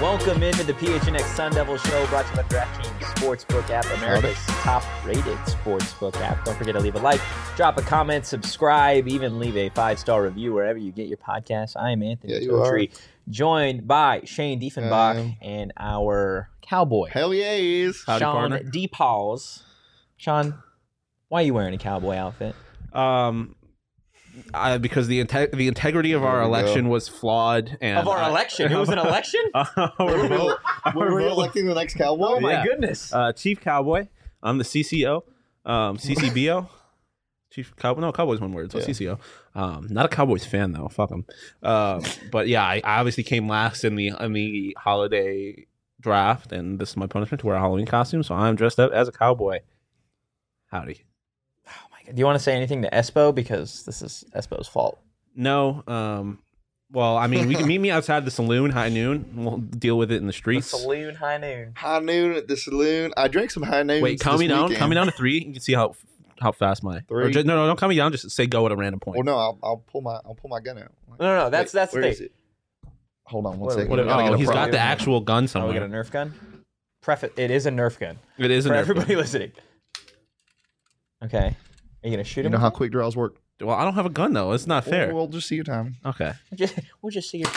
Welcome into the PHNX Sun Devil Show, brought to you by DraftKings Sportsbook app, America's top-rated sportsbook app. Don't forget to leave a like, drop a comment, subscribe, even leave a 5-star review wherever you get your podcasts. I am Anthony Totri, joined by Shane Diefenbach and our cowboy. Hell yes. Howdy, Sean DePauls. Sean, why are you wearing a cowboy outfit? Because the integrity of our election was flawed. And of our election? It was an election? We're electing the next cowboy? Oh, my goodness. Chief Cowboy. I'm the CCO. CCBO. Chief Cowboy. No, Cowboy's one word. So CCO. Not a Cowboys fan, though. Fuck them. But yeah, I obviously came last in the holiday draft, and this is my punishment to wear a Halloween costume, so I'm dressed up as a cowboy. Howdy. Do you want to say anything to Espo? Because this is Espo's fault. No. Well, I mean, we can meet me outside the saloon, high noon. We'll deal with it in the streets. The saloon, high noon. High noon at the saloon. I drank some high noon. Wait, calm me down. Calm me down to 3. You can see how fast my 3. No, don't calm me down. Just say go at a random point. Well, no, I'll pull my gun out. No, that's the thing. Is it? Hold on one second. He's got the actual gun somewhere. Oh, we got a Nerf gun? It is a Nerf gun. It is a For Nerf everybody gun. listening. Okay. Are you going to shoot him? You know how quick draws work? Well, I don't have a gun, though. It's not fair. We'll just see your time. Okay. We'll just see your...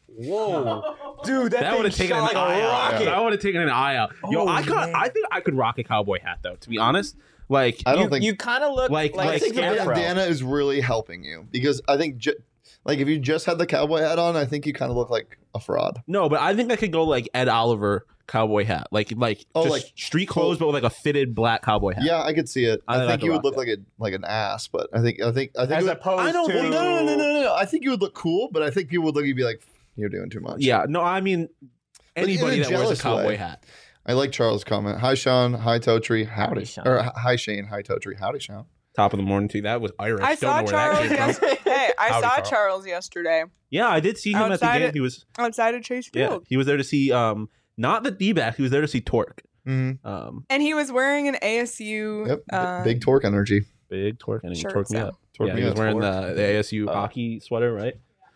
Whoa. Dude, that would have taken an eye out. rocket. That would have taken an eye out. Yo, I think I could rock a cowboy hat, though, to be honest. Like, I don't think... You kind of look like I think the bandana is really helping you. Because I think... if you just had the cowboy hat on, I think you kind of look like a fraud. No, but I think I could go like Ed Oliver cowboy hat, like street clothes, but with like a fitted black cowboy hat. Yeah, I could see it. I think you would look like an ass, but I think as opposed to no. I think you would look cool, but I think people would look at you and be like, "You're doing too much." Yeah, no, I mean anybody that wears a cowboy hat. I like Charles' comment. Hi, Sean. Hi, Totri. Howdy. Sean. Or hi, Shane. Hi, Totri. Howdy, Sean. Top of the morning too. That was Irish. I saw Charles yesterday. Hey, I Howdy, saw Charles. Charles yesterday. Yeah, I did see him at the game. He was outside of Chase Yeah, Field. he was there to see not the D-back. He was there to see Torque. Mm-hmm. And he was wearing an ASU. Big Torque energy. Big Torque energy. Shirt, Torque me up. Torque Yeah, me he was up. wearing the ASU hockey sweater, right?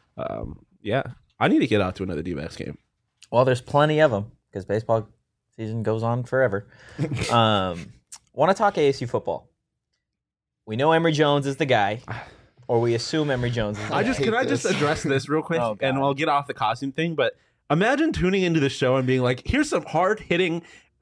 Yeah, I need to get out to another D-backs game. Well, there's plenty of them because baseball season goes on forever. Want to talk ASU football? We know Emory Jones is the guy, or we assume Emory Jones is the guy. Can I just address this real quick, Oh, God. and we'll get off the costume thing. But imagine tuning into the show and being like, "Here's some hard-hitting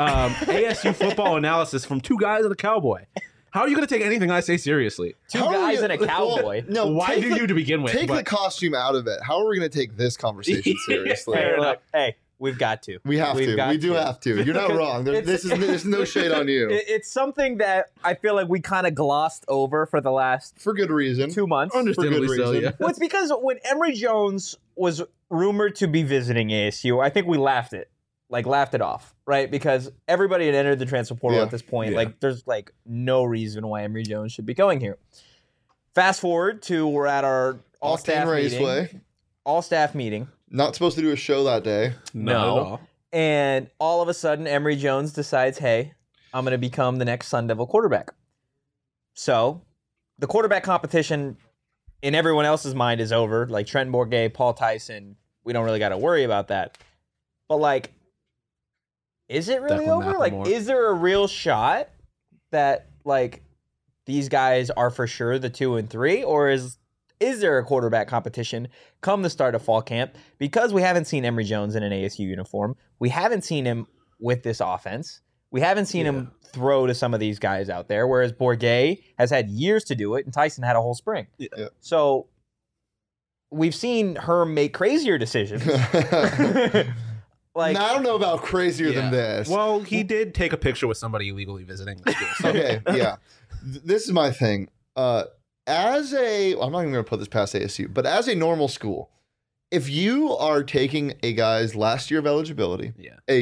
ASU football analysis from two guys and a cowboy." How are you going to take anything I say seriously? Two guys and a cowboy. No, Why do you to begin with? Take the costume out of it. How are we going to take this conversation seriously? Hey, look, we've got to. We have to. We do have to. You're not wrong. There's no shade on you. It's something that I feel like we kind of glossed over for the last For good reason. 2 months. Understandably For good so, reason. yeah. Well, it's because when Emory Jones was rumored to be visiting ASU, I think we laughed it off, right? Because everybody had entered the transfer portal at this point. Yeah. Like, there's like no reason why Emory Jones should be going here. Fast forward to we're at our all-staff Octane meeting. Raceway. All-staff meeting. Not supposed to do a show that day. Not at all. And all of a sudden, Emory Jones decides, hey, I'm going to become the next Sun Devil quarterback. So the quarterback competition in everyone else's mind is over. Like Trenton Bourguet, Paul Tyson, we don't really got to worry about that. But like, is it really Declan over? Like, McLemore. is there a real shot that like these guys are for sure the 2 and 3, or is there a quarterback competition come the start of fall camp? Because we haven't seen Emory Jones in an ASU uniform. We haven't seen him with this offense. We haven't seen him throw to some of these guys out there, whereas Bourguet has had years to do it, and Tyson had a whole spring. Yeah. So we've seen her make crazier decisions. Like, Now, I don't know about crazier than this. Well, he did take a picture with somebody illegally visiting the school. So. Okay, yeah. This is my thing. I'm not even going to put this past ASU, but as a normal school, if you are taking a guy's last year of eligibility,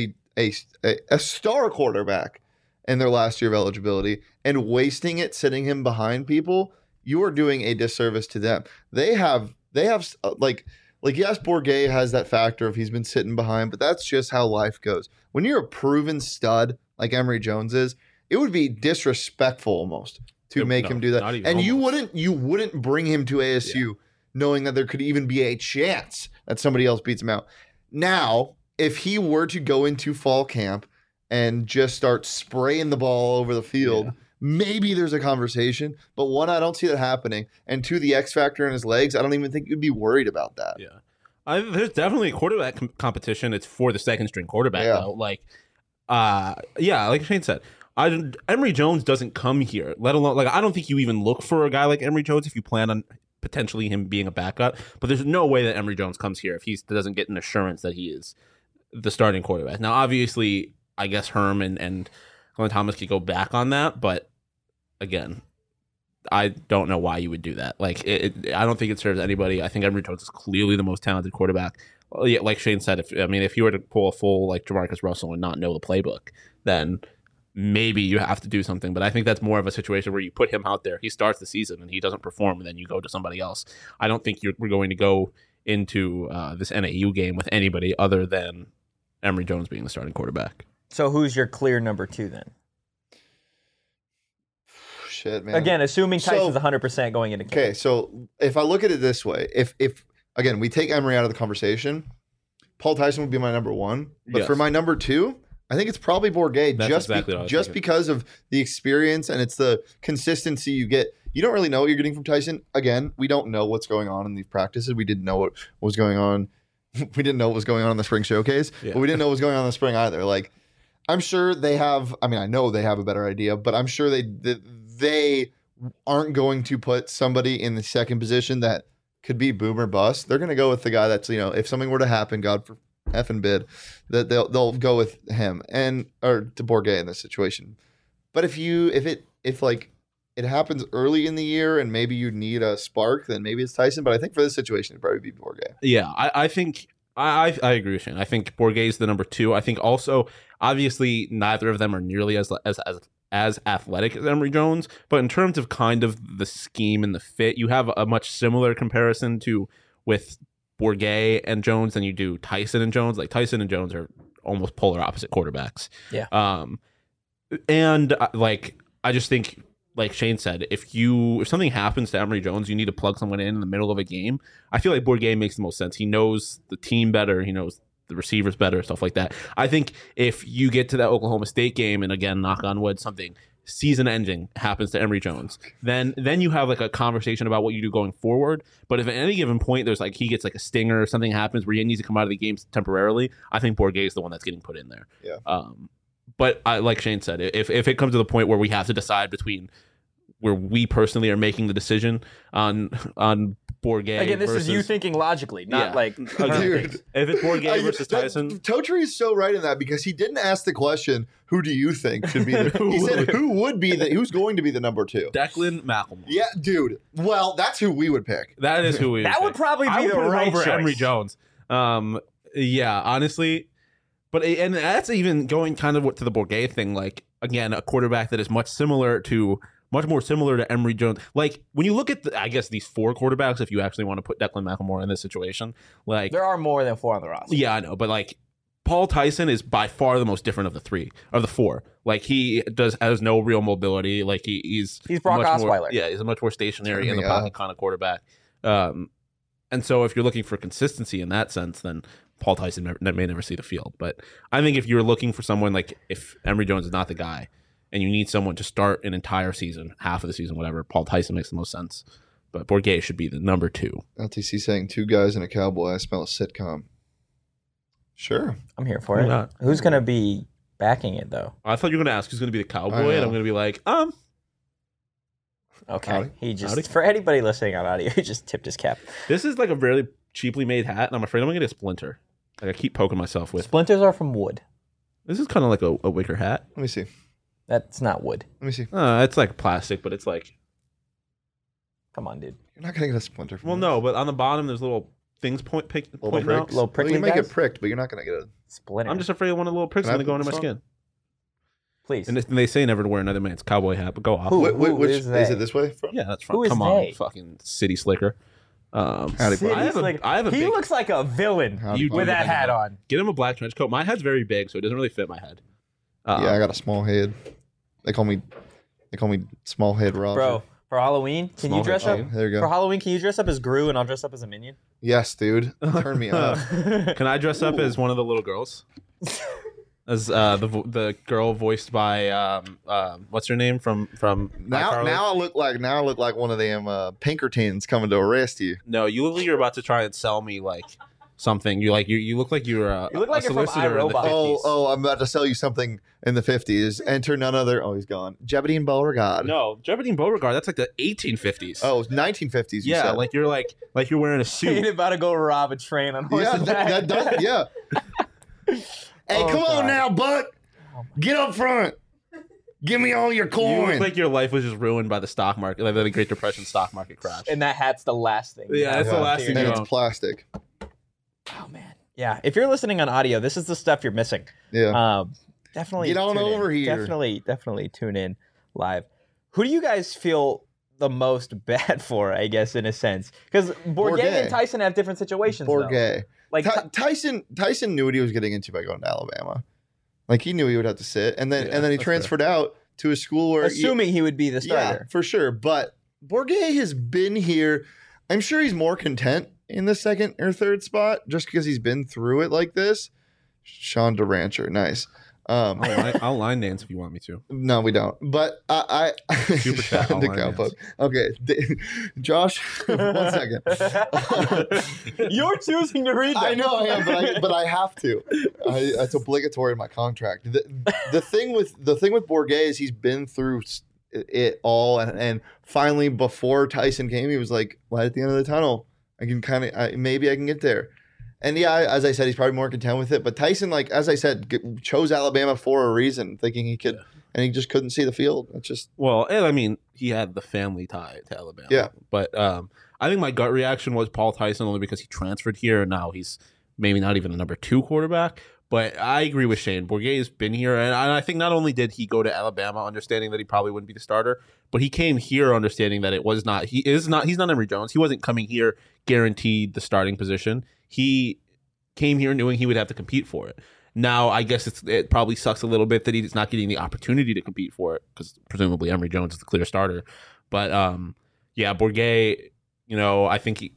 a star quarterback in their last year of eligibility, and wasting it, sitting him behind people, you are doing a disservice to them. They have like yes, Bourguet has that factor of he's been sitting behind, but that's just how life goes. When you're a proven stud like Emory Jones is, it would be disrespectful almost to make him do that. And you wouldn't bring him to ASU knowing that there could even be a chance that somebody else beats him out. Now, if he were to go into fall camp and just start spraying the ball over the field, maybe there's a conversation. But one, I don't see that happening. And two, the X factor in his legs, I don't even think you'd be worried about that. Yeah. There's definitely a quarterback competition. It's for the second string quarterback, though. Like, like Shane said, Emory Jones doesn't come here, let alone, like, I don't think you even look for a guy like Emory Jones if you plan on potentially him being a backup. But there's no way that Emory Jones comes here if he doesn't get an assurance that he is the starting quarterback. Now, obviously, I guess Herm and Glenn Thomas could go back on that, but again, I don't know why you would do that. Like, I don't think it serves anybody. I think Emory Jones is clearly the most talented quarterback. Like Shane said, if you were to pull a full like Jamarcus Russell and not know the playbook, then maybe you have to do something. But I think that's more of a situation where you put him out there, he starts the season and he doesn't perform, and then you go to somebody else. I don't think we're going to go into this NAU game with anybody other than Emory Jones being the starting quarterback. So who's your clear number 2 then? Shit, man. Again, assuming Tyson's 100% going into camp. Okay, so if I look at it this way, if again we take Emory out of the conversation, Paul Tyson would be my number 1. But for my number 2, I think it's probably Bourguet. Just because of the experience, and it's the consistency you get. You don't really know what you're getting from Tyson. Again, we don't know what's going on in these practices. We didn't know what was going on. We didn't know what was going on in the spring showcase, but we didn't know what was going on in the spring either. Like, I'm sure they have. I mean, I know they have a better idea, but I'm sure they aren't going to put somebody in the second position that could be boom or bust. They're going to go with the guy that's, if something were to happen, God for effing bid, that they'll go with him or to Bourguet in this situation. But if it happens early in the year and maybe you need a spark, then maybe it's Tyson. But I think for this situation, it'd probably be Bourguet. Yeah, I think I agree with Shane. I think Bourguet is the number 2. I think also, obviously, neither of them are nearly as athletic as Emory Jones, but in terms of kind of the scheme and the fit, you have a much similar comparison with Bourguet and Jones than you do Tyson and Jones. Like, Tyson and Jones are almost polar opposite quarterbacks. Yeah. And I just think, like Shane said, if something happens to Emory Jones, you need to plug someone in the middle of a game. I feel like Bourguet makes the most sense. He knows the team better. He knows the receivers better, stuff like that. I think if you get to that Oklahoma State game, and again, knock on wood, something season-ending happens to Emory Jones, then you have like a conversation about what you do going forward. But if at any given point there's he gets like a stinger or something happens where he needs to come out of the game temporarily, I think Bourguet is the one that's getting put in there. Yeah. But like Shane said, if it comes to the point where we have to decide between where we personally are making the decision on Bourguet. Again, this is you thinking logically, not dude. If it's Bourguet versus Tyson, Totri is so right in that, because he didn't ask the question, "Who do you think should be?" He said, "Who's going to be the number 2?" Declan McLemore. Yeah, dude. Well, that's who we would pick. That is who we. That would probably be the right over choice. Emory Jones. Yeah, honestly. But and that's even going kind of to the Bourguet thing. Like, again, a quarterback that is much more similar to Emory Jones. Like, when you look at these 4 quarterbacks, if you actually want to put Declan McLemore in this situation, like, there are more than 4 on the roster. Yeah, I know, but like, Paul Tyson is by far the most different of the 4. Like, he has no real mobility. Like, he's Brock Osweiler. He's a much more stationary in the pocket kind of quarterback. And so if you're looking for consistency in that sense, then Paul Tyson may never see the field. But I think if you're looking for someone, like, if Emory Jones is not the guy and you need someone to start an entire season, half of the season, whatever, Paul Tyson makes the most sense. But Bourguet should be the number 2. LTC saying 2 guys and a cowboy. I smell a sitcom. Sure. I'm here for it. Who's going to be backing it, though? I thought you were going to ask who's going to be the cowboy, and I'm going to be like, Okay. Howdy. He just, for anybody listening on audio, he just tipped his cap. This is like a really cheaply made hat, and I'm afraid I'm going to get a splinter. Like, I keep poking myself with. Splinters are from wood. This is kind of like a wicker hat. Let me see. That's not wood. Let me see. It's like plastic, but it's like. Come on, dude. You're not going to get a splinter from this. No, but on the bottom, there's little things pointing out. Little prickly you may guys? get pricked, but you're not going to get a Splinter. I'm just afraid one of the little pricks is going to go into my skin. Please. And they say never to wear another man's cowboy hat, but go off. Which is is they? it this way? Yeah, that's fine. Who is Come on, they? fucking city slicker. Howdy, City I have a he big, looks like a villain Howdy, with that hat on. Get him a black trench coat. My head's very big, so it doesn't really fit my head. Yeah, I got a small head. They call me small head Roger. Bro, For Halloween, can you dress up? There you go. For Halloween, can you dress up as Gru and I'll dress up as a minion? Yes, dude. Turn me up. Can I dress up as one of the little girls? As the girl voiced by what's her name from Now I look like one of them Pinkertons coming to arrest you. No, you look like you're about to try and sell me like something. You look like you're a, You look like a you're from solicitor in the iRobot. 50s. Oh, I'm about to sell you something in the 50s. Enter none other. Oh, he's gone. Jebediah Beauregard. No, Jebediah Beauregard. That's like the 1850s. Oh, 1950s. You yeah, said. like you're wearing a Ain't suit. about to go rob a train on Yeah, horseback. that does. Yeah. Hey, Oh, come God. on now, Buck. Get up front. Give me all your You coin. look like your life was just ruined by the stock market, like the Great Depression stock market crash. And that hat's the last thing. Yeah, that's the last thing and you it's own. plastic. Oh man. Yeah, if you're listening on audio, this is the stuff you're missing. Yeah. Definitely Get on tune in. over here. Definitely tune in live. Who do you guys feel the most bad for? I guess in a sense, because Bourget and Tyson have different situations. Bourget. Like Tyson knew what he was getting into by going to Alabama. Like he knew he would have to sit, and then he that's transferred out to a school where assuming he would be the starter. Yeah, for sure. But Bourget has been here. I'm sure he's more content in the second or third spot just because he's been through it like this. Sean DeRancher, nice. I'll line dance if you want me to. No, we don't. But I Super chat, Sean I'll line DeCalpo. Okay, Josh. 1 second. You're choosing to read that. I know I am, but I have to. It's obligatory in my contract. The thing with Bourget is he's been through it all, and finally before Tyson came, he was like, light at the end of the tunnel. I can maybe I can get there. And yeah, as I said, he's probably more content with it. But Tyson, like as I said, chose Alabama for a reason, thinking he could, and he just couldn't see the field. It's just and I mean, he had the family tie to Alabama. Yeah. But I think my gut reaction was Paul Tyson only because he transferred here and now he's maybe not even a number 2 quarterback. But I agree with Shane. Bourget has been here, and I think not only did he go to Alabama understanding that he probably wouldn't be the starter, but he came here understanding that he's not Emory Jones. He wasn't coming here guaranteed the starting position. He came here knowing he would have to compete for it. Now, I guess it probably sucks a little bit that he's not getting the opportunity to compete for it because presumably Emory Jones is the clear starter. But Bourget, I think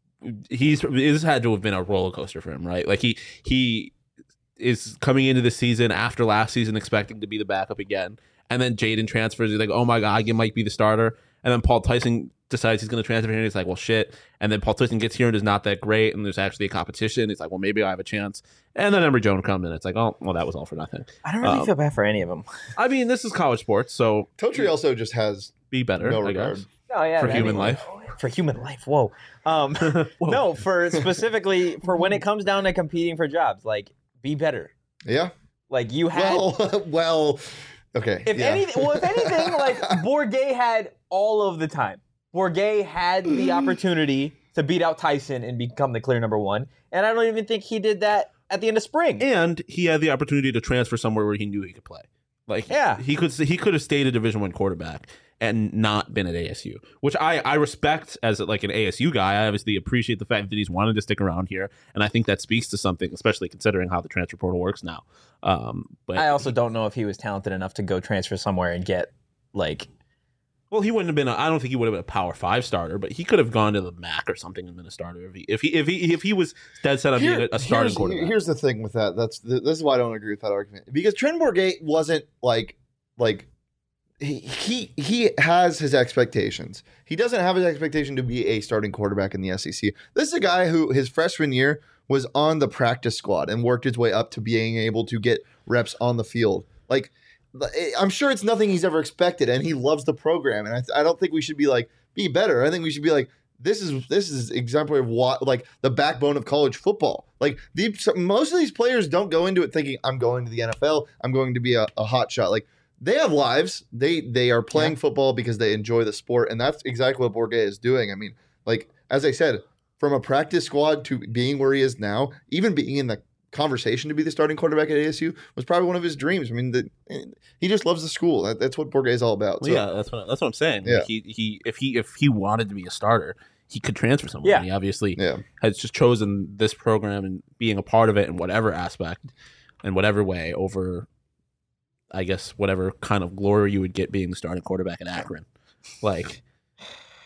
he's had to have been a roller coaster for him, right? Like he is coming into the season after last season expecting to be the backup again, and then Jaden transfers. He's like, oh my god, he might be the starter, and then Paul Tyson decides he's going to transfer here, and he's like, well, shit. And then Paul Tyson gets here and is not that great, and there's actually a competition. He's like, well, maybe I have a chance. And then Emory Jones comes in. It's like, oh, well, that was all for nothing. I don't really feel bad for any of them. I mean, this is college sports, so Totri also just has be better, no I regard. guess. Oh yeah, For human life. For human life. Whoa. No, for specifically for when it comes down to competing for jobs, like be better. Yeah. Like you had. Well. Okay. If anything, like Bourget had all of the time. Bourget had the opportunity to beat out Tyson and become the clear number 1, and I don't even think he did that at the end of spring. And he had the opportunity to transfer somewhere where he knew he could play. Like, yeah, he could have stayed a Division I quarterback and not been at ASU, which I respect as like an ASU guy. I obviously appreciate the fact that he's wanted to stick around here, and I think that speaks to something, especially considering how the transfer portal works now. But I also don't know if he was talented enough to go transfer somewhere and get like. Well, he wouldn't have been. I don't think he would have been a Power 5 starter, but he could have gone to the MAC or something and been a starter if he was dead set on being a starting quarterback. Here's the thing with that. This is why I don't agree with that argument, because Trent Bourget wasn't like he has his expectations. He doesn't have his expectation to be a starting quarterback in the SEC. This is a guy who his freshman year was on the practice squad and worked his way up to being able to get reps on the field. Like, I'm sure it's nothing he's ever expected, and he loves the program. And I don't think we should be like, be better. I think we should be like, this is exemplary of what, like, the backbone of college football. Like, most of these players don't go into it thinking, I'm going to the NFL, I'm going to be a hot shot. Like, they have lives. They are playing football because they enjoy the sport, and that's exactly what Bourget is doing. I mean, like, as I said, from a practice squad to being where he is now, even being in the conversation to be the starting quarterback at ASU was probably one of his dreams. I mean, he just loves the school. That's what Bourget is all about. Well, yeah, that's what I'm saying. Yeah. Like if he wanted to be a starter, he could transfer somewhere. Yeah. And he obviously has just chosen this program and being a part of it in whatever aspect, in whatever way, over, I guess, whatever kind of glory you would get being the starting quarterback at Akron. Like,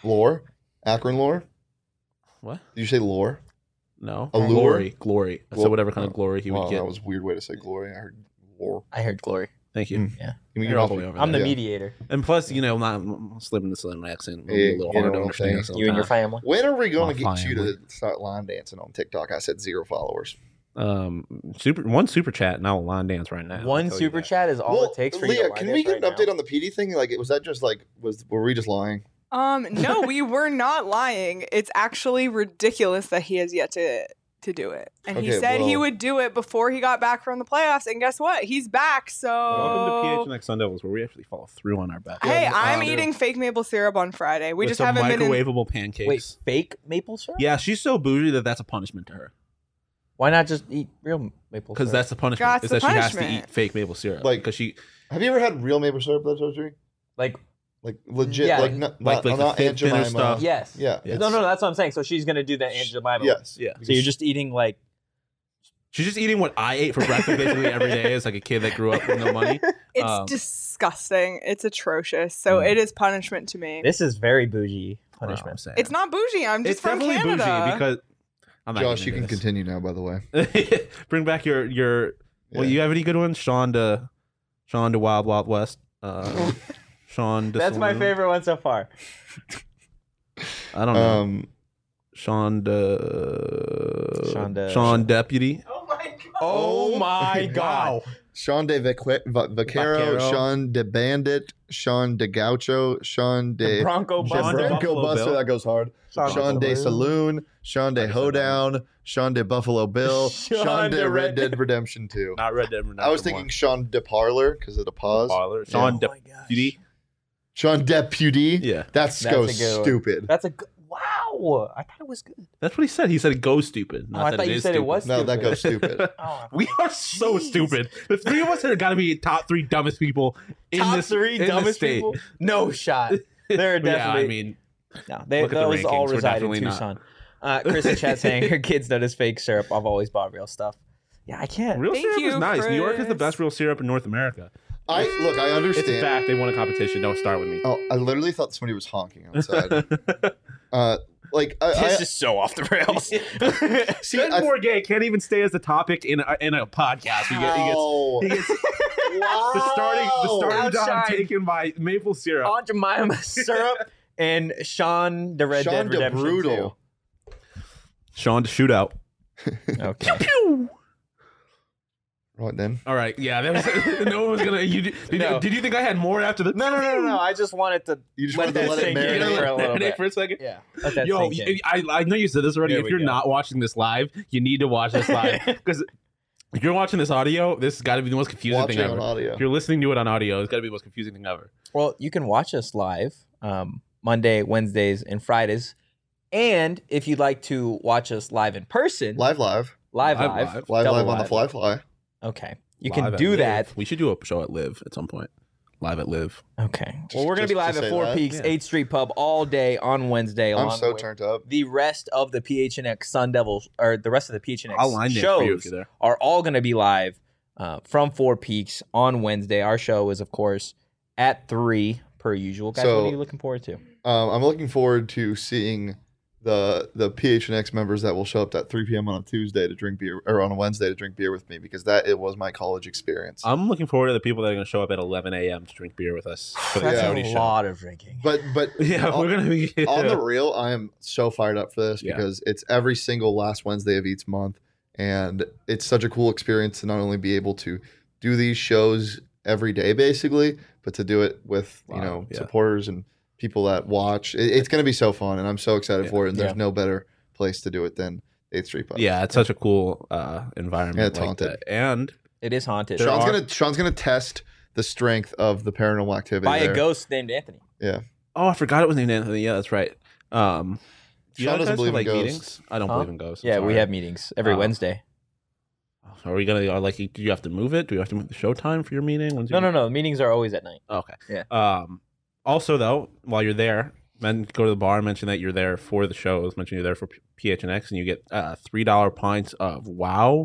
Lore? Akron lore? What? Did you say lore? No. Allure? Glory. So whatever kind of glory he would get. That was a weird way to say glory. I heard lore. I heard glory. Thank you. Yeah. You're all the way over I'm the there. mediator. And plus, not slipping the southern accent. It'll Yeah, be a little you hard know to what I'm understand. saying? You and your family. When are we going to My get you family. to start line dancing on TikTok? I said 0 followers. One super chat, and I'll line dance right now. One I'll tell you super that. chat is all it takes for you Leah, to line can dance we get right an update now? on the PD thing? Like, was that just like were we just lying? No, we were not lying. It's actually ridiculous that he has yet to do it. And he Okay, said he well- would do it before he got back from the playoffs. And guess what? He's back. So Welcome to PHNX Sun Devils, where we actually follow through on our bet. hey, Yeah, I'm dude. eating fake maple syrup on Friday. We With just some haven't been in. microwavable pancakes. Wait, fake maple syrup? Yeah, she's so bougie that's a punishment to her. Why not just eat real maple syrup? Because that's the punishment. That's is the that she has to punishment. eat fake maple syrup. Like- because she Have you ever had real maple syrup that's surgery? like Like legit, Yeah. like not Like the not thinner Aunt Jemima. stuff. yes. Yeah. Yes. No, that's what I'm saying. So she's gonna do the Aunt Jemima. Yes. yeah. So you're just eating like She's just eating what I ate for breakfast basically every day as like a kid that grew up with no money. It's disgusting. It's atrocious. So it is punishment to me. this is very bougie Wow, I'm punishment. saying. It's not bougie. I'm just It's from definitely Canada. bougie because I'm not Josh, getting you can into continue now. By the way. this. Bring back your. Well, Yeah. you have any good ones? Sean to Wild Wild West. Sean to That's my Saloon. favorite one so far. I don't know. Um, Sean Deputy. Oh my god. Oh my god. Sean de Vaquero, Vaquero. Sean de Bandit, Sean de Gaucho, Sean de Bronco Sean Buster. de Bronco Buffalo Buster. Bill. That goes hard. Sean de Saloon, Sean de Hoedown, Sean de Buffalo Bill, Sean de Red Dead Redemption 2. Not Red Dead Redemption. I was thinking Sean de Parlor because of the pause. Parlor. Sean Oh my gosh. Deputy. Sean Deputy. Yeah, That's a so good one. stupid. That's a good. Wow. I thought it was good. that's what he said. He said go stupid. Oh, Not I that thought you is said it stupid. was No, that stupid. goes stupid. Oh, We are so Jeez. stupid. The three of us are got to be top 3 dumbest people in top this three in this dumbest state. people? No shot. They're Yeah, definitely. I mean, no, they, look at the those all rankings. We're reside in definitely not. Tucson. Chris in chat saying her kids notice fake syrup. I've always bought real stuff. Yeah, I can't. real Thank syrup is you, nice. New York is the Chris. best real syrup in North America. I It's a understand. fact. They won a competition. Don't start with me. Oh, I literally thought somebody was honking outside. This is so off the rails. See, Ben I- Bourget can't even stay as the topic in a podcast. He gets Wow. the starting job Outshine. taken by maple syrup. Aunt Jemima syrup and Sean the Red Sean Dead de Redemption Brutal. Sean to shootout. 2. Okay. Pew! Right then. All right, yeah, that was, no one was gonna. No. Did you think I had more after the? No. I just wanted to You just let wanted to that let it sink in marinate. for a little bit. for a second. Yeah. Let that Yo, sink in. I know you said this already. There If we you're go. not watching this live, you need to watch this live because if you're watching this audio, this has got to be the most confusing Watching thing on ever. audio. If you're listening to it on audio, it's got to be the most confusing thing ever. Well, you can watch us live Monday, Wednesdays, and Fridays. And if you'd like to watch us live in person, Live. live, Live. double On the fly. Okay. You Live can at do Live. that. We should do a show at Live at some point. Live at Live. Okay. Just- Well, we're going to be just live to at say Four that. Peaks, Yeah. 8th Street Pub all day on Wednesday. I'm along so with turned up. the rest of the PHNX Sun Devils, or the rest of the PHNX I'll line dance for you if shows you're there. are all going to be live from Four Peaks on Wednesday. Our show is, of course, at 3 per usual. Guys, So- what are you looking forward to? I'm looking forward to seeing the PHNX members that will show up at 3 p.m. on a Tuesday to drink beer, or on a Wednesday to drink beer with me, because it was my college experience. I'm looking forward to the people that are going to show up at 11 a.m. to drink beer with us for the That's Coyote a show. lot of drinking. But Yeah, on, we're going to be on the real, I am so fired up for this Yeah. because it's every single last Wednesday of each month, and it's such a cool experience to not only be able to do these shows every day, basically, but to do it with Wow, yeah. supporters and people that watch. It's going to be so fun, and I'm so excited Yeah. for it. And there's Yeah. no better place to do it than 8th Street Pub. Yeah, it's such a cool environment. Yeah, it's like haunted. that. And It is haunted There Sean's gonna test the strength of the paranormal activity by there. a ghost named Anthony. oh, I forgot it was named Anthony. Yeah, that's right. Do you Sean guys doesn't have, believe in like ghosts. meetings? I don't Huh? believe in ghosts. I'm Yeah, we sorry. have meetings every Oh. Wednesday. Are we gonna like? Do you have to move it? Do you have to move the show time for your meeting? When's your No. Meetings are always at night. Okay. Yeah. Also, though, while you're there, go to the bar. Mention that you're there for the shows. Mention you're there for PHNX, and you get $3 pints of Wow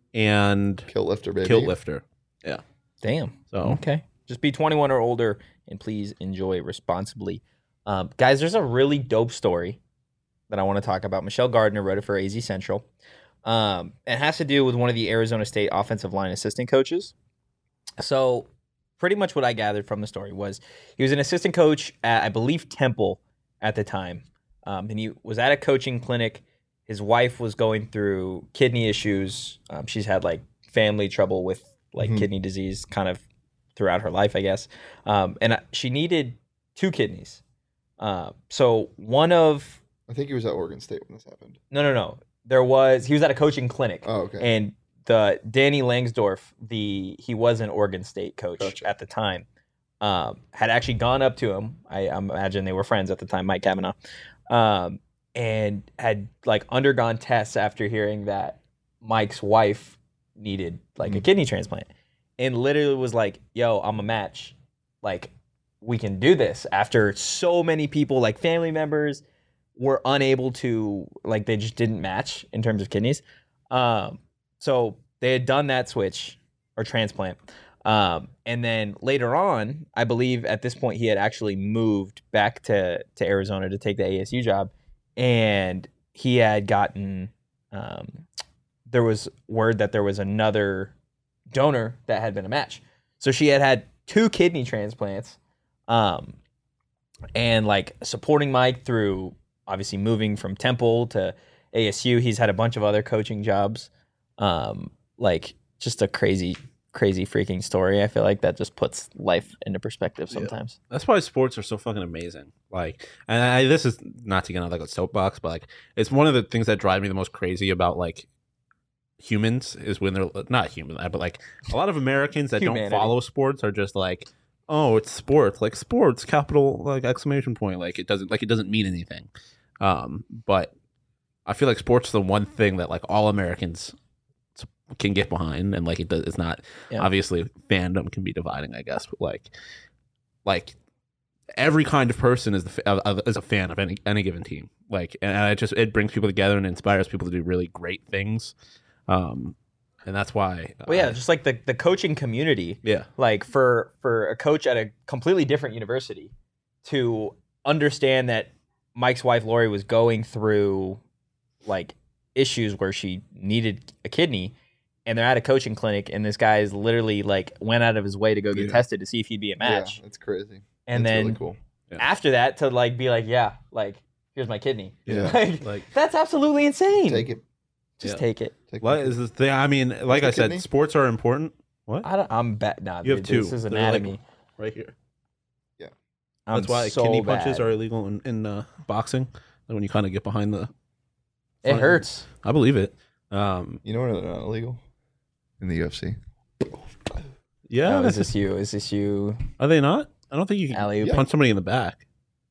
and Kilt lifter, baby. Kilt Lifter. Damn. So Okay. Just be 21 or older and please enjoy responsibly. Guys, there's a really dope story that I want to talk about. Michelle Gardner wrote it for AZ Central. It has to do with one of the Arizona State offensive line assistant coaches. So pretty much what I gathered from the story was he was an assistant coach at, I believe, Temple at the time. And he was at a coaching clinic. His wife was going through kidney issues. She's had like family trouble with like kidney disease kind of throughout her life, I guess. And she needed 2 kidneys. So one of... I think he was at Oregon State when this happened. No. He was at a coaching clinic. Oh, okay. And the Danny Langsdorf, he was an Oregon State coach at the time, had actually gone up to him. I imagine they were friends at the time, Mike Cavanaugh, and had like undergone tests after hearing that Mike's wife needed like a kidney transplant, and literally was like, "Yo, I'm a match. Like, we can do this." After so many people, like family members, were unable to, like, they just didn't match in terms of kidneys. So they had done that switch or transplant. And then later on, I believe at this point he had actually moved back to Arizona to take the ASU job. And he had gotten, there was word that there was another donor that had been a match. So she had 2 kidney transplants, and like supporting Mike through obviously moving from Temple to ASU. He's had a bunch of other coaching jobs. Like just a crazy freaking story. I feel like that just puts life into perspective sometimes. Yeah. That's why sports are so fucking amazing. Like, and this is not to get on like a soapbox, but like it's one of the things that drive me the most crazy about like humans is when they're not human, but like a lot of Americans that don't follow sports are just like, oh, it's sports, like sports, capital like exclamation point, like it doesn't mean anything. But I feel like sports is the one thing that like all Americans can get behind, and like it's not obviously fandom can be dividing, I guess, but like every kind of person is a fan of any given team. Like, and it brings people together and inspires people to do really great things. And that's why. Just like the coaching community. Yeah. Like for a coach at a completely different university to understand that Mike's wife Lori was going through like issues where she needed a kidney, and they're at a coaching clinic, and this guy is literally like went out of his way to go get tested to see if he'd be a match. Yeah, that's crazy. And that's then really cool. After that to like be like, yeah, like here's my kidney. Yeah. Like that's absolutely insane. Take it. Just take it. What is the thing? I mean, like I said, kidney? sports are important. What? I'm bad. Nah, You have two. This is They're, like, anatomy. right here. Yeah. That's why so kidney bad. punches are illegal in boxing. And when you kind of get behind the It hurts. I believe it. You know where they're not illegal? In the UFC. Yeah. No, is this you? Is this you? Are they not? I don't think you can Alley-oop. punch somebody in the back.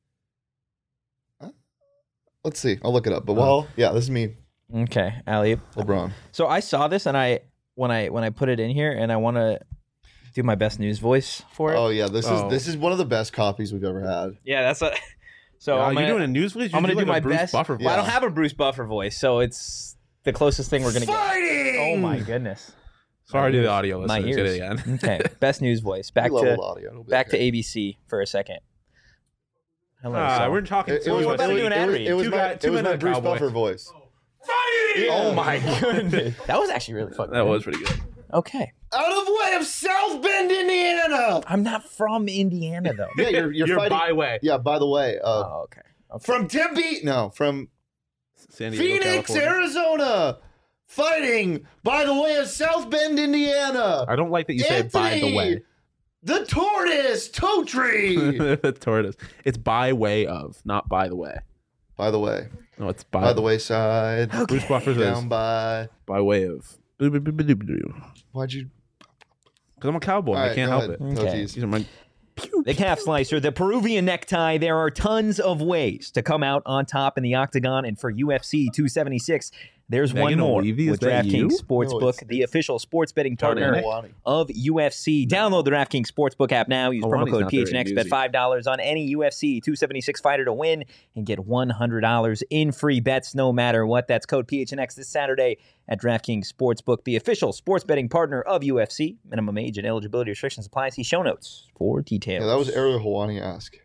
Let's see. I'll look it up. But this is me, Okay, alley. LeBron. So I saw this, and when I put it in here, and I want to do my best news voice for it. Oh yeah, this is one of the best copies we've ever had. Yeah, that's a. So Wow, I'm you're gonna, doing a news voice? I'm gonna do my Bruce best. Buffer Well, I don't Yeah. have a Bruce Buffer voice, so it's the closest thing we're gonna get. Oh my goodness. Sorry to the audio My listeners. Get ears. it again. Okay, best news voice. Back We to leveled audio. It'll be back to okay. ABC for a second. Hello. so- We're talking. It was We're about to do an ad read. it was Two my, guy- it two was men my and a Bruce cowboy. Buffer voice. Oh my goodness. That was actually really fucking That good. was pretty good. Okay. Out of way of South Bend, Indiana. I'm not from Indiana though. Yeah, you're You're fighting. by way. Yeah, by the way, Oh, okay. from Tempe, no, from San Diego, Phoenix, California. Arizona, fighting by the way of South Bend, Indiana. I don't like that you say by the way. The tortoise, toe tree. The tortoise. It's by way of, not by the way. By the way, No, it's by the wayside, Bruce Buffer says down by. by way of. Because Why'd you? I'm a cowboy. All I right, can't go help ahead. it. Oh, Okay. geez. These are my. The calf slicer, the Peruvian necktie. There are tons of ways to come out on top in the octagon. And for UFC 276, there's Megan one more O'Leary, is with that you? DraftKings Sportsbook, No, it's- the official sports betting partner Milwaukee. of UFC. Download the DraftKings Sportsbook app now. Use promo Ronnie's code not very PHNX. Bet newsy. $5 on any UFC 276 fighter to win and get $100 in free bets no matter what. That's code PHNX this Saturday at DraftKings Sportsbook, the official sports betting partner of UFC. Minimum age and eligibility restrictions apply. See show notes for details. Yeah, that was Ariel Hawani-esque.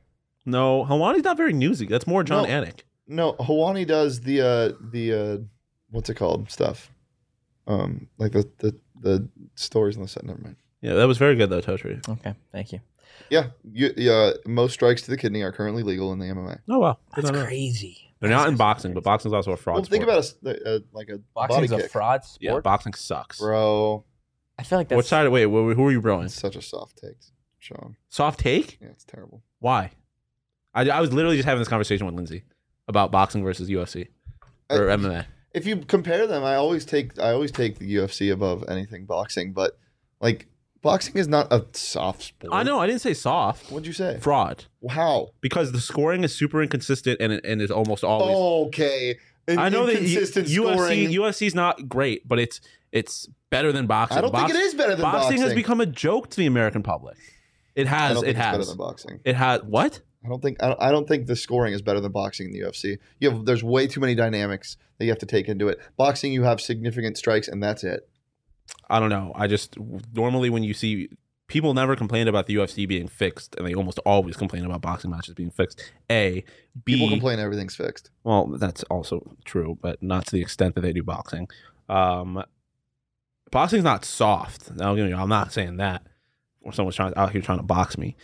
No, Helwani's not very newsy. That's more John No. Anik. No, Hawani does the what's it called stuff, like the stories on the set. Never mind. Yeah, that was very good though, Totri. Okay, thank you. Yeah, most strikes to the kidney are currently legal in the MMA. Oh wow, That's crazy. They're not in boxing, but boxing's also a fraud. Well, think sport. about a like a Boxing's body a kick, fraud sport. Yeah, boxing sucks. bro. I feel like that's What side? Wait, who are you broing? It's such a soft take, Sean. Soft take? Yeah, it's terrible. Why? I was literally just having this conversation with Lindsay about boxing versus UFC or MMA. If you compare them, I always take the UFC above anything boxing, but like boxing is not a soft sport. I know. I didn't say soft. What'd you say? Fraud. How? Because the scoring is super inconsistent and is almost always. Okay. I know that Inconsistent UFC's not great, but it's better than boxing. I don't think it is better than boxing. has become a joke to the American public. It has. I don't think it it's has. better than boxing. It has what? I don't think the scoring is better than boxing in the UFC. There's way too many dynamics that you have to take into it. Boxing, you have significant strikes, and that's it. I don't know. I just normally when you see people never complain about the UFC being fixed, and they almost always complain about boxing matches being fixed. B. People complain everything's fixed. Well, that's also true, but not to the extent that they do boxing. Boxing's not soft. Now, I'm not saying that. Or someone's out here trying to box me.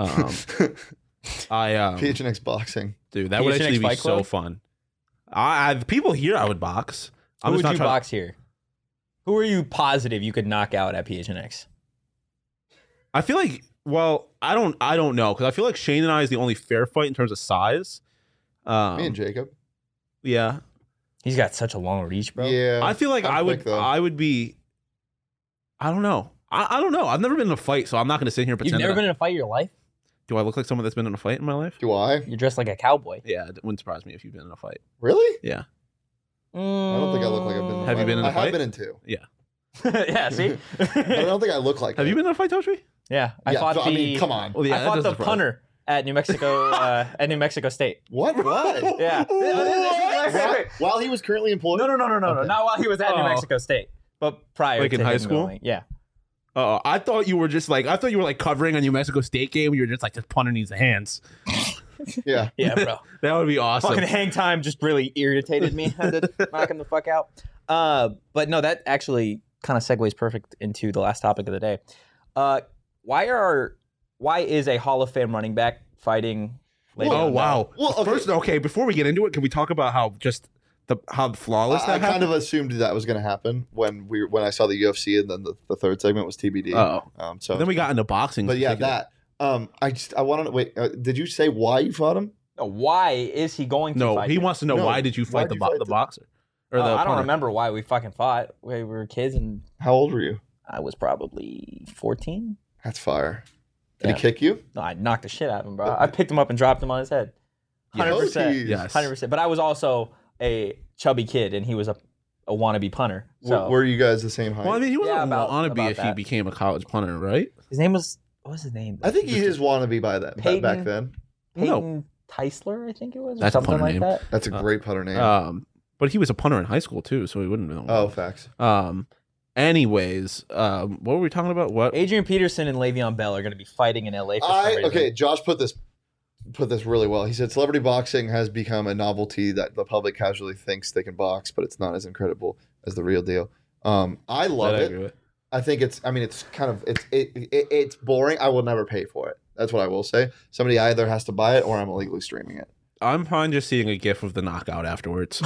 PHNX boxing. Dude, that would PHNX actually be Fight so Club? fun. The people here I would box. Who would you box here? Who are you positive you could knock out at PHNX? I feel like, well, I don't know, because I feel like Shane and I is the only fair fight in terms of size. Me and Jacob. Yeah. He's got such a long reach, bro. Yeah. I feel like I'm quick, though. I would be. I don't know. I don't know. I've never been in a fight, so I'm not going to sit here and pretend. You've never been in a fight in your life? Do I look like someone that's been in a fight in my life? Do I? You're dressed like a cowboy. Yeah, it wouldn't surprise me if you've been in a fight. Really? Yeah. I don't think I look like I've been in a Have you fight. been in a I fight? have been in two. Yeah, see? But I don't think I look like Have it. you been in a fight, Totri? Yeah, I Yeah, fought I mean, come on. Well, yeah, I that fought the doesn't surprise punter at New Mexico State. What? Why? Yeah. While he was currently employed? No, Okay. not while he was at New Oh. Mexico State, but prior. Like in to high him school? going. Yeah. Oh, I thought you were covering a New Mexico State game. You were just like, this punter needs the hands. Yeah. Yeah, bro. That would be awesome. Fucking hang time just really irritated me. I had to knock him the fuck out. But no, that actually kind of segues perfect into the last topic of the day. Why is a Hall of Fame running back fighting? Le'Veon Oh Bell? wow! Well, okay. First, before we get into it, can we talk about how flawless I that kind happened? of assumed that was going to happen when I saw the UFC, and then the third segment was TBD. So But then we got into boxing. But yeah, that. I want to wait. Did you say why you fought him? No, why is he going to No, fight he him? wants to know No, why did you why'd fight you fight the the- boxer or the I don't punter? remember why we fucking fought. We were kids and How old were you? I was probably 14. That's fire. Did Yeah. he kick you? No, I knocked the shit out of him, bro. I picked him up and dropped him on his head. 100%. Jeez. Yes. 100%. But I was also a chubby kid, and he was a wannabe punter. So Were you guys the same height? Well, I mean, he wasn't Yeah, about wannabe if he that. became a college punter, right? his name was, what was his name? I think he is wannabe by that Peyton- back then. Peyton Teisler, I think it was, or That's a something punter like name. that. That's a great putter name. But he was a punter in high school too, so he wouldn't have been. Oh, facts. Anyways, what were we talking about? What? Adrian Peterson and Le'Veon Bell are going to be fighting in LA for some reason. Okay, Josh put this really well. He said celebrity boxing has become a novelty that the public casually thinks they can box, but it's not as incredible as the real deal. I love That I it. agree with. I think it's kind of it's boring. I will never pay for it. That's what I will say. Somebody either has to buy it or I'm illegally streaming it. I'm fine just seeing a gif of the knockout afterwards.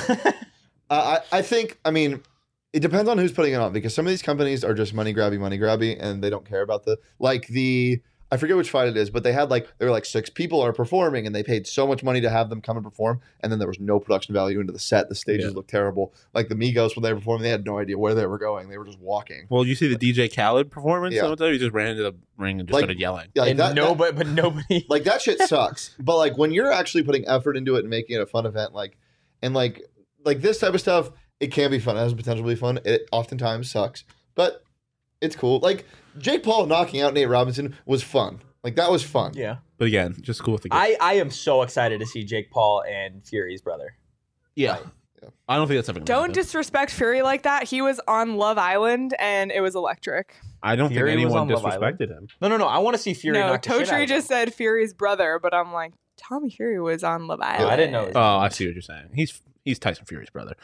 I think, I mean, it depends on who's putting it on, because some of these companies are just money grabby, and they don't care about I forget which fight it is, but they were like 6 people are performing, and they paid so much money to have them come and perform, and then there was no production value into the set. The stages looked terrible. Like the Migos, when they were performing, they had no idea where they were going. They were just walking. Well, you see the DJ Khaled performance? Yeah. He just ran into the ring and just started yelling. Yeah, And nobody. like that shit sucks. But like when you're actually putting effort into it and making it a fun event, like this type of stuff, it can be fun. It has the potential to be fun. It oftentimes sucks, but it's cool. Like Jake Paul knocking out Nate Robinson was fun. Like that was fun. Yeah. But again, just cool with the gif. I am so excited to see Jake Paul and Fury's brother. Yeah. I don't think that's ever going to Don't happen. disrespect Fury like that. He was on Love Island and it was electric. I don't Fury think was anyone on Love Island. disrespected him. No. I want to see Fury. No, knock the shit out Totri of just him. said Fury's brother, but I'm like, Tommy Fury was on Love Island. I didn't know. Oh, I see what you're saying. He's Tyson Fury's brother.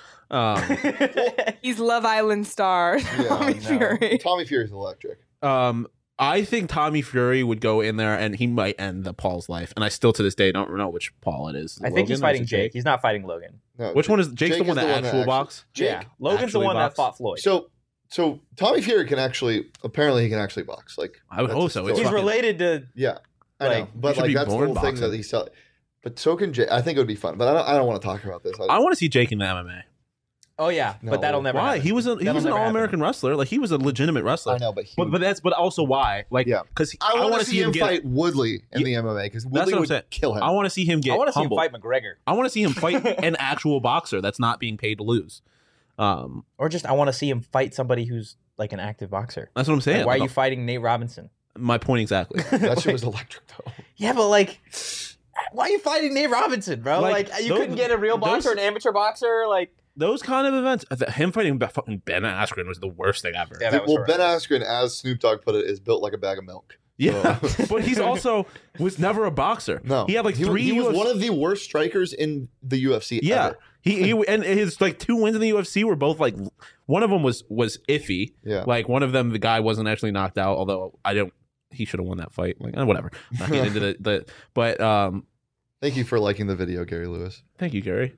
He's Love Island star Tommy Fury. Tommy Fury's electric. I think Tommy Fury would go in there and he might end the Paul's life. And I still to this day don't know which Paul it is. I think he's fighting Jake. He's not fighting Logan. No, Which one is Jake's Jake the one that actual box? Jake, Yeah, Logan's the one that fought Floyd. So Tommy Fury can actually box. Like I would hope so. It's He's fucking- related to. yeah, I know, but should like be that's the born whole thing boxing. that he's selling. But so can Jake. I think it would be fun, but I don't want to talk about this. I want to see Jake in the MMA. Oh yeah, No. but that'll never. Why? happen. He was an That'll never all-American wrestler. Like he was a legitimate wrestler. I know, but But also why? Like Yeah. because I want wanna to see him get. fight Woodley in the MMA because That's Woodley what I'm would saying. kill him. I want to see him get. I want to see him humbled. fight McGregor, I want to see him fight an actual boxer that's not being paid to lose. or just I want to see him fight somebody who's like an active boxer. That's what I'm saying. Like, why are Like, you fighting Nate Robinson? my point exactly. That shit was electric though. Yeah, but like, why are you fighting Nate Robinson, bro? Like, Like, you couldn't get a real boxer, an amateur boxer, like. Those kind of events, him fighting fucking Ben Askren was the worst thing ever. Yeah, that was Well, Ben Askren, as Snoop Dogg put it, is built like a bag of milk. Yeah, but he's also was never a boxer. No, he had like he three. was UFC one of the worst strikers in the UFC. Yeah, ever. he and his like 2 wins in the UFC were both like one of them was iffy. Yeah. Like one of them, the guy wasn't actually knocked out. Although he should have won that fight. Like whatever. Not getting into the but Thank you for liking the video, Gary Lewis. thank you, Gary.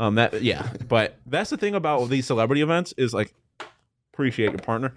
But that's the thing about these celebrity events is like appreciate your partner.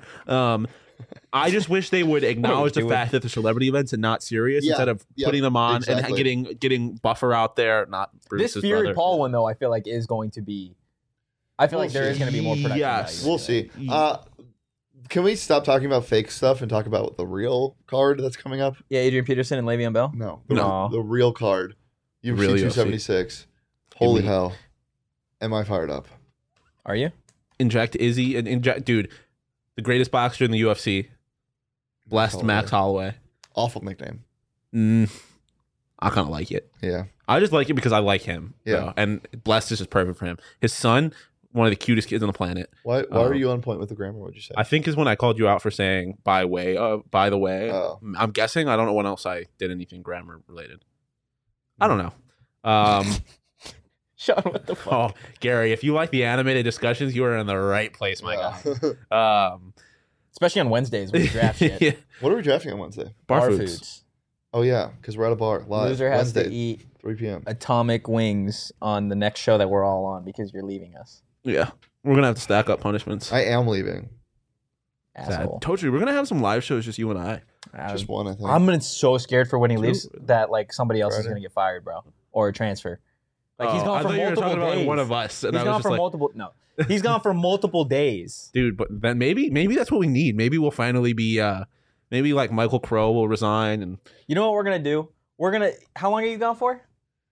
I just wish they would acknowledge the fact that the celebrity events are not serious Yeah, instead of yeah, putting them on exactly. and getting Buffer out there, not Bruce's This Fury brother. Paul one though, I feel like is going to be. I feel like there is going to be more production. Yes. value. We'll see. Can we stop talking about fake stuff and talk about the real card that's coming up? Yeah, Adrian Peterson and Le'Veon Bell. No, the real card. UFC Real UFC. 276. Holy me- hell. Am I fired up? Are you? Inject Izzy and inject dude, the greatest boxer in the UFC. Blessed Max Holloway. Awful nickname. I kind of like it. Yeah. I just like it because I like him. Yeah. though. And Blessed is just perfect for him. His son, one of the cutest kids on the planet. Why are you on point with the grammar? What'd you say? I think is when I called you out for saying by the way. Oh. I'm guessing. I don't know when else I did anything grammar related. I don't know. Sean, what the fuck? Oh, Gary, if you like the animated discussions, you are in the right place, my guy. Especially on Wednesdays when we draft shit. Yeah. What are we drafting on Wednesday? Bar foods. Oh, yeah, because we're at a bar live. Loser has Wednesday, to eat 3 p.m. atomic wings on the next show that we're all on because you're leaving us. Yeah. We're going to have to stack up punishments. I am leaving. Asshole. Told you, we're going to have some live shows, just you and I. Just one, I think. I'm so scared for when he Two. leaves that like somebody else is Friday. going to get fired, bro, or a transfer. Like he's Oh, gone I for thought you were multiple talking about days. one of us. And He's I was gone just for like, multiple. No, he's gone for multiple days. dude, but then maybe that's what we need. Maybe we'll finally be, maybe like Michael Crow will resign. And You know what we're gonna do? We're gonna. How long are you gone for?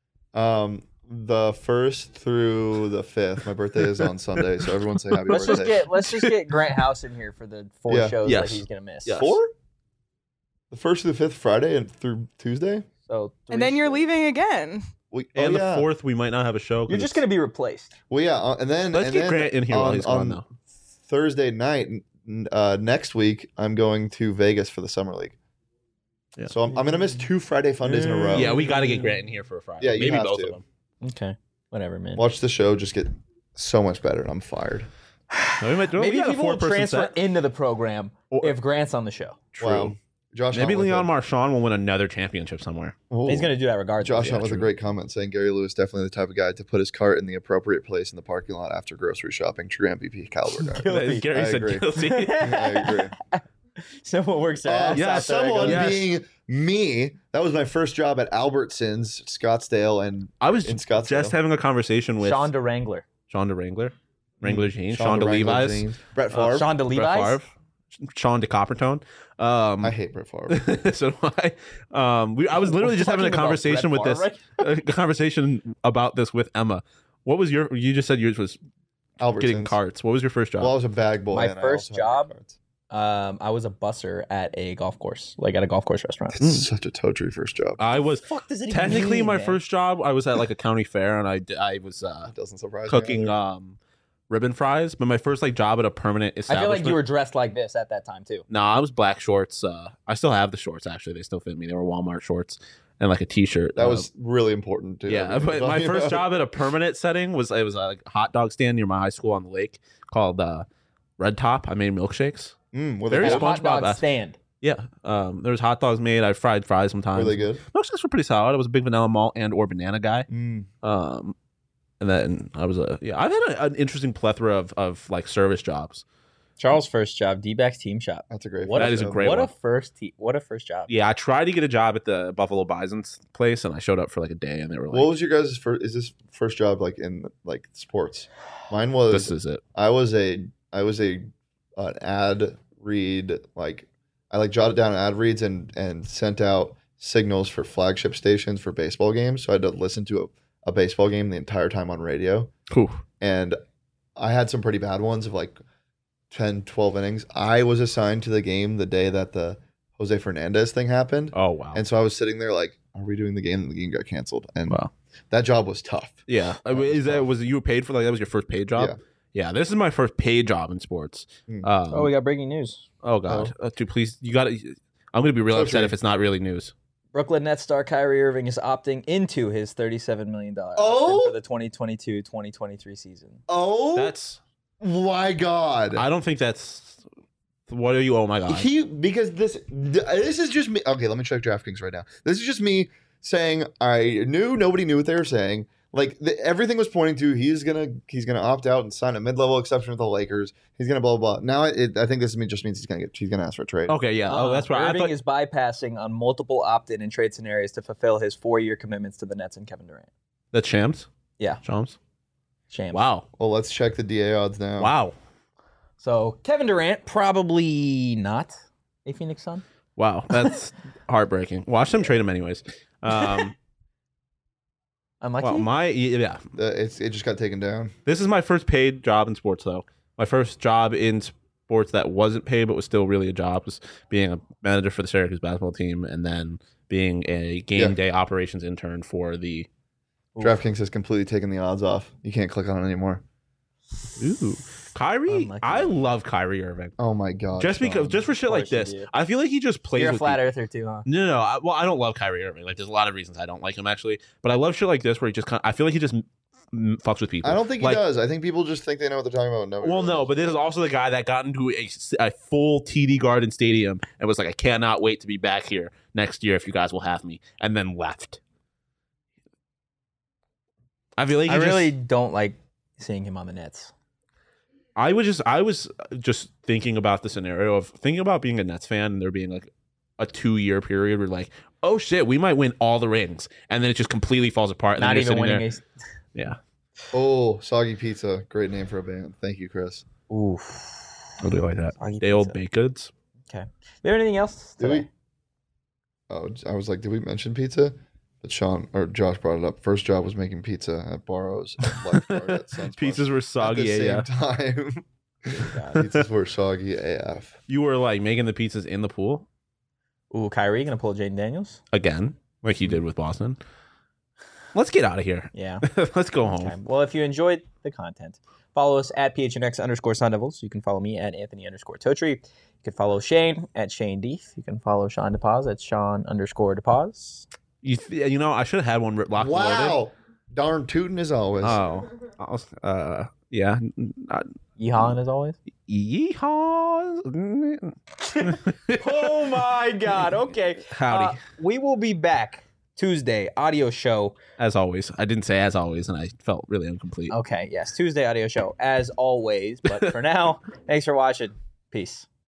The 1st through the 5th. My birthday is on Sunday, so everyone say happy birthday. Let's just get Grant House in here for the 4 Yeah. shows Yes. that he's gonna miss. Yes. 4? The 1st through the 5th, Friday and through Tuesday? So And then you're leaving again. and the 4th, we might not have a show. 'cause You're just gonna be replaced. Well, yeah, and then Let's and get then Grant in here while he's gone, though. Thursday night next week, I'm going to Vegas for the Summer League. Yeah. So I'm gonna miss 2 Friday fun days in a row. Yeah, we got to get Grant in here for a Friday. Yeah, you maybe have both to. of them. Okay, whatever, man. Watch the show just get so much better, and I'm fired. No, we might do it. Maybe We got a people will 4-person transfer set. into the program Or- if Grant's on the show. True. Wow. Josh, Maybe Hunt with Leon a- Marchand will win another championship somewhere. Oh. He's gonna do that regardless. Josh Yeah, Hunt with a true. great comment saying Gary Lewis definitely the type of guy to put his cart in the appropriate place in the parking lot after grocery shopping. True MVP caliber guy. Guilty. Gary I said agree. guilty. I agree. Someone works their ass yeah, off there, Someone goes, Yes. being me. That was my first job at Albertsons, Scottsdale, and I was in Scottsdale. just having a conversation with Shonda Wrangler. Shonda Wrangler, Wrangler jeans, Shonda Shonda Wrangler Levi's, jeans. Brett Favre. Shonda Brett Levi's. Favre, Sean DeCoppertone. I hate Brett Favre. So do I. I was literally just having a Talking about conversation with Brett this, Favre, a conversation about this with Emma. What was your? You just said yours was Albertsons. getting carts. What was your first job? Well, I was a bag boy. My and I first also had job? carts. I was a busser at a golf course, like at a golf course restaurant. It's such a toe tree first job. I was Fuck does it even technically mean, my man? first job. I was at like a county fair, and I was It doesn't surprise cooking me. ribbon fries. But my first like job at a permanent I establishment. feel like you were dressed like this at that time too. No, I was black shorts. I still have the shorts actually. They still fit me. They were Walmart shorts. and like a T-shirt. That was really important. Too. Yeah, but my first job at a permanent setting was like a hot dog stand near my high school on the lake called Red Top. I made milkshakes. Very At a hot SpongeBob. dog stand. Yeah, there was hot dogs made. I fried fries sometimes. Were they good? Milkshakes were pretty solid. I was a big vanilla malt and or banana guy. And then I was I've had an interesting plethora of like service jobs. Charles' first job, D-backs team shop. That's a great. What That is a great one. What a first job. Yeah, I tried to get a job at the Buffalo Bison's place, and I showed up for like a day, and they were like, What was your guys' first? Is this first job like in like sports? Mine was. "This is it." I was an ad read, like I like jotted down ad reads and sent out signals for flagship stations for baseball games. So I had to listen to a baseball game the entire time on radio. Whew. And I had some pretty bad ones of like 10, 12 innings. I was assigned to the game the day that the Jose Fernandez thing happened. Oh wow! And so I was sitting there like, are we doing the game? And the game got canceled. And Wow. that job was tough. Yeah, was you paid for like that was your first paid job? Yeah. Yeah, this is my first paid job in sports. Mm. Oh, we got breaking news. Oh God, dude, please, you got to. I'm gonna be real So upset true. if it's not really news. Brooklyn Nets star Kyrie Irving is opting into his $37 million Oh? option for the 2022-2023 season. Oh, That's. my God. I don't think that's. What are you? Oh my God. Because this is just me. Okay, let me check DraftKings right now. This is just me saying nobody knew what they were saying. Like everything was pointing to he's gonna opt out and sign a mid-level exception with the Lakers. He's gonna blah blah blah. Now I think this just means he's gonna ask for a trade. Okay, yeah. Oh, that's right. Irving is bypassing on multiple opt-in and trade scenarios to fulfill his 4-year commitments to the Nets and Kevin Durant. That's Shams. Yeah. Shams. Shame. Wow. Well, let's check the DA odds now. Wow. So Kevin Durant probably not a Phoenix Sun. Wow. That's heartbreaking. Watch them trade him anyways. Unlucky. Well, It just got taken down. This is my first paid job in sports, though. My first job in sports that wasn't paid but was still really a job was being a manager for the Syracuse basketball team, and then being a game day operations intern for the. DraftKings has completely taken the odds off. You can't click on it anymore. Ooh, Kyrie. Unlucky. I love Kyrie Irving. Oh my God. Just for shit like course you this, do. I feel like he just plays. You're a with flat people. earther too, huh? No. I don't love Kyrie Irving. Like, there's a lot of reasons I don't like him actually, but I love shit like this where he just I feel like he just fucks with people. I don't think he does. I think people just think they know what they're talking about. No, but this is also the guy that got into a full TD Garden Stadium and was like, I cannot wait to be back here next year if you guys will have me, and then left. I feel like I really don't like seeing him on the Nets. I was just thinking about the scenario of thinking about being a Nets fan and there being like a 2-year period where like, oh shit, we might win all the rings, and then it just completely falls apart. And Not then you're even sitting winning there. Yeah. Oh, Soggy Pizza. Great name for a band. Thank you, Chris. Oof. I'll do it like that. Soggy Day old pizza. baked goods. Okay. There anything else Did today? we? Oh, I was like, did we mention pizza? But Sean or Josh brought it up. First job was making pizza at Barrows. Lifeguard at Sun's Pizzas were at soggy the same AF. time. Pizzas were soggy AF. You were like making the pizzas in the pool Ooh, Kyrie gonna pull Jaden Daniels? again, like you did with Boston. Let's get out of here. Yeah. Let's go home. Okay. Well, if you enjoyed the content, follow us at PHNX_Sun Devils. You can follow me at Anthony_Totri. You can follow Shane at Shane Deef. You can follow Sean DePaz at Sean_DePaz. You know, I should have had one locked and loaded. Wow. Darn tootin' as always. Oh, yeah. Yeehaw as always. Yeehaw. Oh my God. Okay. Howdy. We will be back Tuesday audio show. As always. I didn't say as always, and I felt really incomplete. Okay. Yes. Tuesday audio show as always. But for now, thanks for watching. Peace.